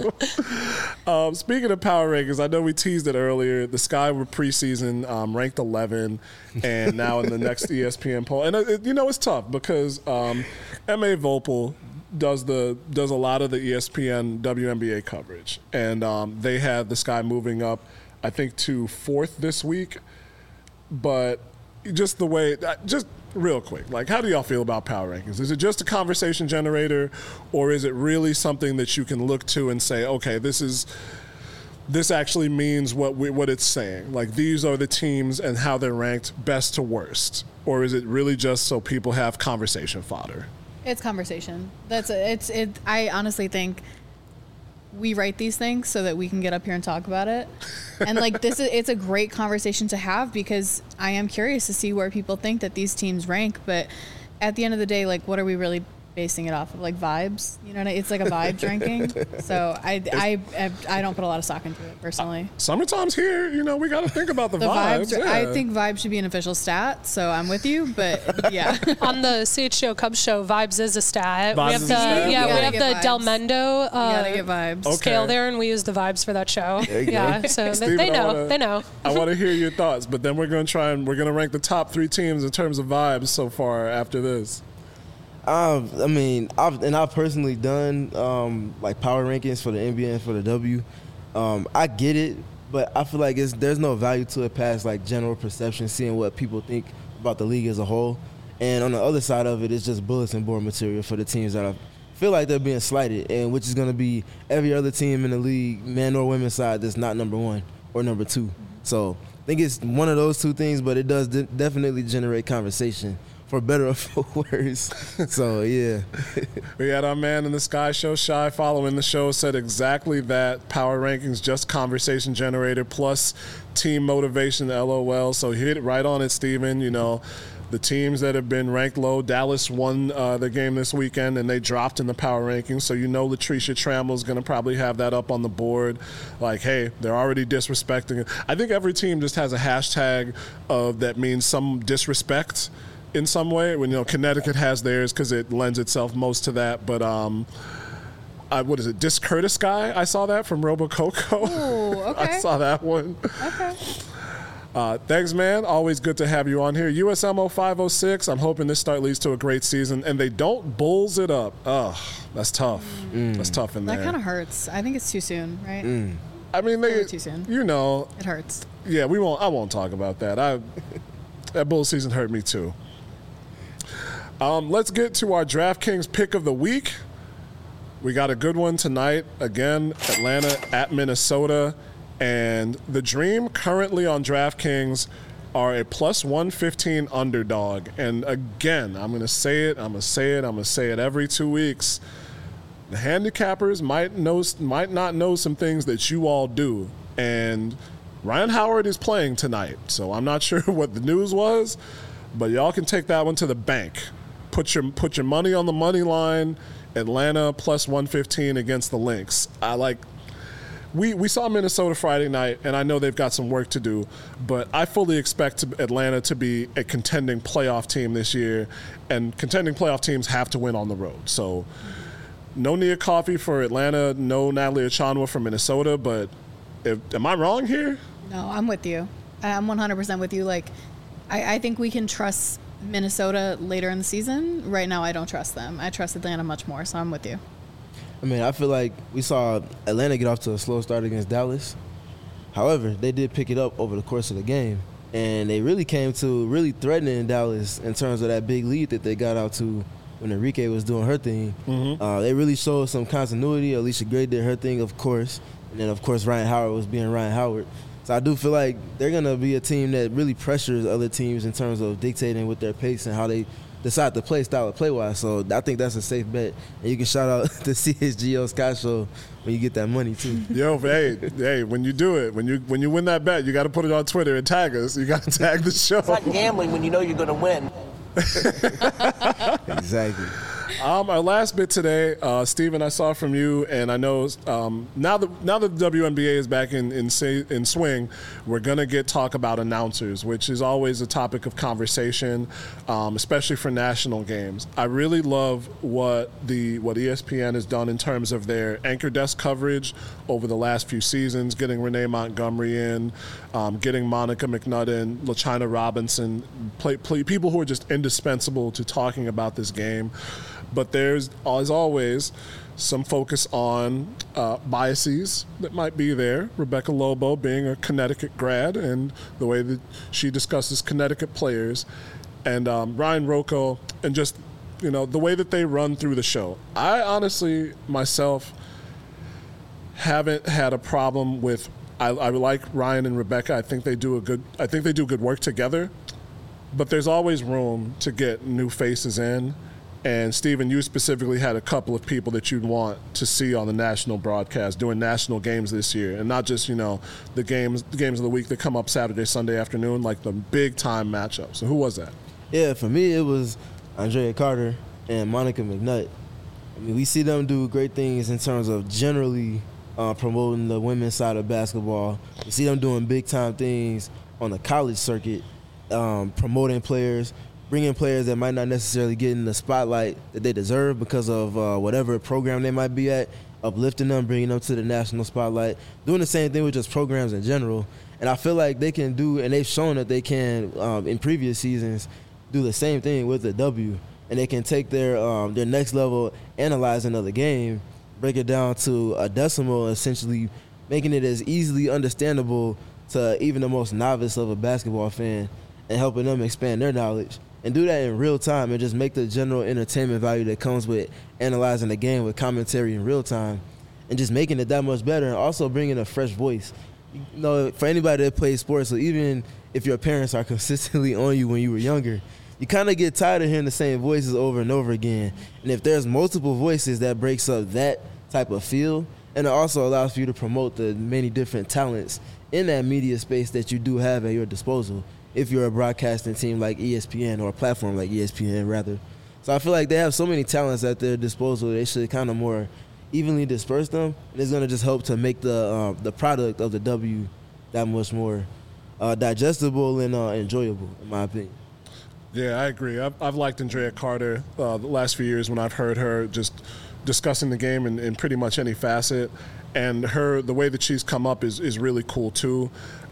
Speaker 1: Speaking of power rankings, I know we teased it earlier. The Sky were preseason ranked 11, and now in the next ESPN poll, and it's tough because M.A. Vopel does a lot of the ESPN WNBA coverage, and they had the Sky moving up, I think, to 4th this week. But just the way, just real quick, like, how do y'all feel about power rankings? Is it just a conversation generator, or is it really something that you can look to and say, okay, this actually means what it's saying? Like, these are the teams and how they're ranked best to worst, or is it really just so people have conversation fodder?
Speaker 3: It's conversation. I honestly think we write these things so that we can get up here and talk about it. And like it's a great conversation to have, because I am curious to see where people think that these teams rank. But at the end of the day, like, what are we really basing it off of? Like, vibes? You know, it's like a vibes ranking. So I don't put a lot of stock into it personally.
Speaker 1: Summertime's here. We got to think about the vibes. Yeah.
Speaker 3: I think vibes should be an official stat. So I'm with you. But yeah,
Speaker 4: on the CHGO Cubs show, vibes is a stat.
Speaker 1: We have
Speaker 4: the Del Mendo scale there, and we use the vibes for that show. Yeah, so Steven, they know.
Speaker 1: I want to hear your thoughts, but then we're going to rank the top 3 teams in terms of vibes so far after this.
Speaker 2: I've personally done like power rankings for the NBA and for the W. I get it, but I feel like there's no value to it past like general perception, seeing what people think about the league as a whole. And on the other side of it, it's just bulletin board material for the teams that I feel like they're being slighted, and which is going to be every other team in the league, man or women's side, that's not number 1 or number 2. So I think it's one of those 2 things, but it does definitely generate conversation, for better or for worse. So, yeah.
Speaker 1: We had our man in the Sky Show, Shy, following the show, said exactly that. Power rankings, just conversation generator plus team motivation, LOL. So hit it right on it, Steven. The teams that have been ranked low, Dallas won the game this weekend, and they dropped in the power rankings. So Latricia Trammell is going to probably have that up on the board. Like, hey, they're already disrespecting it. I think every team just has a hashtag that means some disrespect in some way. When Connecticut has theirs because it lends itself most to that. But what is it? Discourteous Guy? I saw that from Robococo.
Speaker 3: Oh, okay.
Speaker 1: I saw that one.
Speaker 3: Okay.
Speaker 1: Thanks, man. Always good to have you on here. USMO 506. I'm hoping this start leads to a great season, and they don't Bulls it up. Ugh, that's tough. That's tough in there.
Speaker 3: That kind of hurts. I think it's too soon, right?
Speaker 1: I mean,
Speaker 3: too soon.
Speaker 1: It
Speaker 3: hurts.
Speaker 1: Yeah, I won't talk about that. That Bulls season hurt me too. Let's get to our DraftKings pick of the week. We got a good one tonight. Again, Atlanta at Minnesota. And the Dream currently on DraftKings are a plus 115 underdog. And again, I'm going to say it every 2 weeks. The handicappers might not know some things that you all do. And Ryan Howard is playing tonight. So I'm not sure what the news was, but y'all can take that one to the bank. put your money on the money line. Atlanta plus 115 against the Lynx. We saw Minnesota Friday night, and I know they've got some work to do, but I fully expect Atlanta to be a contending playoff team this year, and contending playoff teams have to win on the road. So no Nia Coffey for Atlanta, no Natalie Achonwa for Minnesota, but am I wrong here?
Speaker 3: No, I'm with you. I'm 100% with you. I think we can trust Minnesota later in the season. Right now, I don't trust them. I trust Atlanta much more, so I'm with you.
Speaker 2: I mean, I feel like we saw Atlanta get off to a slow start against Dallas. However, they did pick it up over the course of the game, and they really came to really threatening Dallas in terms of that big lead that they got out to when Enrique was doing her thing. Mm-hmm. They really showed some continuity. Alicia Gray did her thing, of course, and then, of course, Ryan Howard was being Ryan Howard. So I do feel like they're going to be a team that really pressures other teams in terms of dictating with their pace and how they decide to play style of play-wise. So I think that's a safe bet. And you can shout out the CSGO Sky Show when you get that money, too.
Speaker 1: Yo, hey, when you do it, when you win that bet, you got to put it on Twitter and tag us. You got to tag the show.
Speaker 5: It's like gambling when you know you're going to win.
Speaker 2: Exactly.
Speaker 1: Our last bit today, Steven, I saw from you, and I know now that the WNBA is back in swing, we're gonna get talk about announcers, which is always a topic of conversation, especially for national games. I really love what ESPN has done in terms of their anchor desk coverage over the last few seasons, getting Renee Montgomery in, getting Monica McNutt in, LaChina Robinson, people who are just indispensable to talking about this game. But there's, as always, some focus on biases that might be there. Rebecca Lobo being a Connecticut grad and the way that she discusses Connecticut players. And Ryan Rocco and just, the way that they run through the show. I honestly, myself, haven't had a problem with I like Ryan and Rebecca. I think they do good work together. But there's always room to get new faces in. And, Steven, you specifically had a couple of people that you'd want to see on the national broadcast doing national games this year. And not just, the games of the week that come up Saturday, Sunday afternoon, like the big-time matchups. So who was that?
Speaker 2: Yeah, for me, it was Andrea Carter and Monica McNutt. I mean, we see them do great things in terms of generally promoting the women's side of basketball. We see them doing big-time things on the college circuit, promoting players, bringing players that might not necessarily get in the spotlight that they deserve because of whatever program they might be at, uplifting them, bringing them to the national spotlight, doing the same thing with just programs in general. And I feel like they can do, and they've shown that they can, in previous seasons, do the same thing with the W. And they can take their next level, analyzing of the game, break it down to a decimal, essentially making it as easily understandable to even the most novice of a basketball fan and helping them expand their knowledge. And do that in real time and just make the general entertainment value that comes with analyzing the game with commentary in real time and just making it that much better and also bringing a fresh voice. For anybody that plays sports, so even if your parents are consistently on you when you were younger, you kind of get tired of hearing the same voices over and over again. And if there's multiple voices, that breaks up that type of feel, and it also allows for you to promote the many different talents in that media space that you do have at your disposal if you're a broadcasting team like ESPN, or a platform like ESPN, rather. So I feel like they have so many talents at their disposal, they should kind of more evenly disperse them. And it's going to just help to make the product of the W that much more digestible and enjoyable, in my opinion.
Speaker 1: Yeah, I agree. I've liked Andrea Carter the last few years when I've heard her just discussing the game in pretty much any facet. And the way that she's come up is really cool, too.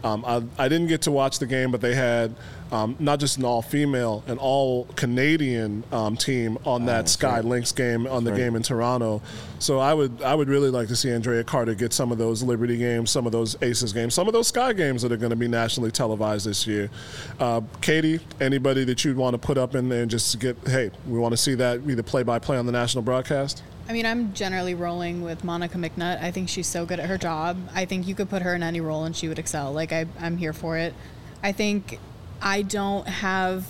Speaker 1: I didn't get to watch the game, but they had not just an all-female, an all-Canadian team on that Sky Lynx game, on the game in Toronto. So I would really like to see Andrea Carter get some of those Liberty games, some of those Aces games, some of those Sky games that are going to be nationally televised this year. Katie, anybody that you'd want to put up in there and just get, hey, we want to see that either play-by-play on the national broadcast?
Speaker 3: I mean, I'm generally rolling with Monica McNutt. I think she's so good at her job. I think you could put her in any role and she would excel. I'm here for it. I think I don't have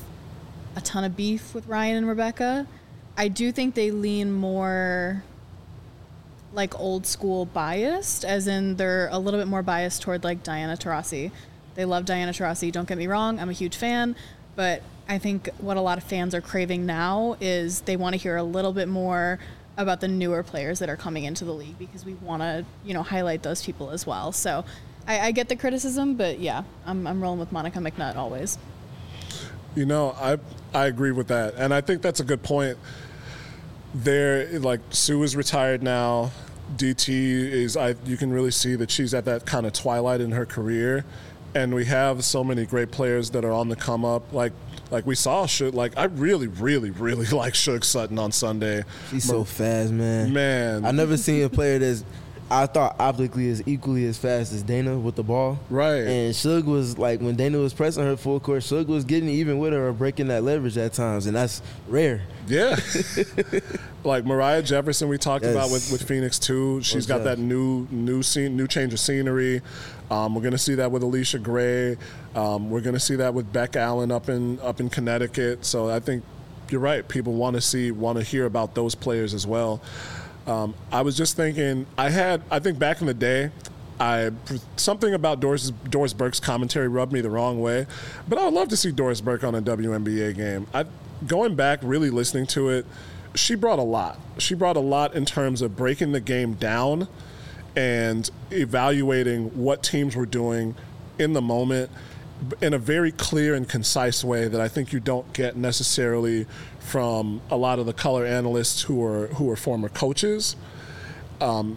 Speaker 3: a ton of beef with Ryan and Rebecca. I do think they lean more like old school biased, as in they're a little bit more biased toward like Diana Taurasi. They love Diana Taurasi. Don't get me wrong. I'm a huge fan. But I think what a lot of fans are craving now is they want to hear a little bit more about the newer players that are coming into the league, because we want to, highlight those people as well. So I get the criticism, but yeah, I'm rolling with Monica McNutt always.
Speaker 1: I agree with that. And I think that's a good point. Sue is retired now. DT you can really see that she's at that kind of twilight in her career. And we have so many great players that are on the come up. Like we saw, I really, really, really like Suge Sutton on Sunday.
Speaker 2: She's so fast, man.
Speaker 1: Man.
Speaker 2: I've never seen a player that's, I thought optically is equally as fast as Dana with the ball.
Speaker 1: Right.
Speaker 2: And Suge was when Dana was pressing her full court, Suge was getting even with her or breaking that leverage at times, and that's rare.
Speaker 1: Yeah. Like Mariah Jefferson we talked about with Phoenix too. She's got that new change of scenery. We're going to see that with Alicia Gray. We're going to see that with Beck Allen up in Connecticut. So I think you're right. People want to hear about those players as well. I was just thinking, I think back in the day, something about Doris Burke's commentary rubbed me the wrong way, but I would love to see Doris Burke on a WNBA game. Going back, really listening to it, she brought a lot. She brought a lot in terms of breaking the game down and evaluating what teams were doing in the moment in a very clear and concise way that I think you don't get necessarily from a lot of the color analysts who are former coaches. And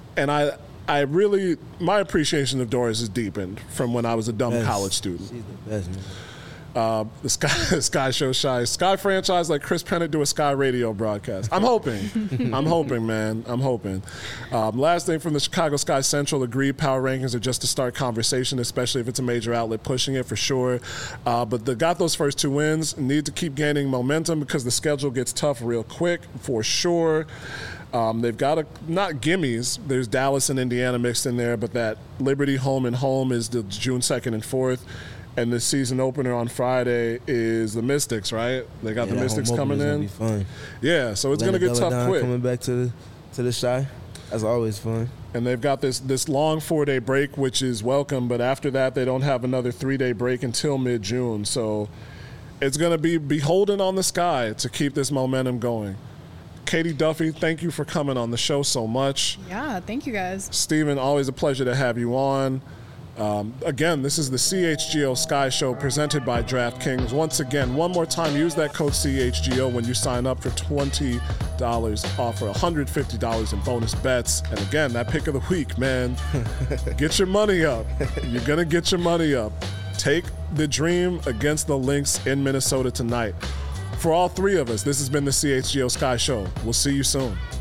Speaker 1: I really, my appreciation of Doris has deepened from when I was a dumb college student.
Speaker 2: She's the best, man.
Speaker 1: The Sky Show Shy. Sky franchise like Chris Pennant do a Sky radio broadcast. I'm hoping. I'm hoping, man. I'm hoping. Last thing from the Chicago Sky Central, agreed power rankings are just to start conversation, especially if it's a major outlet pushing it for sure. But they got those first 2 wins. Need to keep gaining momentum because the schedule gets tough real quick for sure. They've got not gimmies. There's Dallas and Indiana mixed in there, but that Liberty home and home is the June 2nd and 4th. And the season opener on Friday is the Mystics, right? They got the Mystics coming in.
Speaker 2: Be fun.
Speaker 1: Yeah, so it's going to get tough quick.
Speaker 2: Coming back to the Shy, that's always fun.
Speaker 1: And they've got this long 4-day break, which is welcome. But after that, they don't have another 3-day break until mid-June. So it's going to be beholden on the Sky to keep this momentum going. Katie Duffy, thank you for coming on the show so much.
Speaker 3: Yeah, thank you guys.
Speaker 1: Stephen, always a pleasure to have you on. Again, this is the CHGO Sky Show presented by DraftKings. Once again, one more time, use that code CHGO when you sign up for $20 off for $150 in bonus bets. And again, that pick of the week, man, get your money up. You're going to get your money up. Take the Dream against the Lynx in Minnesota tonight. For all 3 of us, this has been the CHGO Sky Show. We'll see you soon.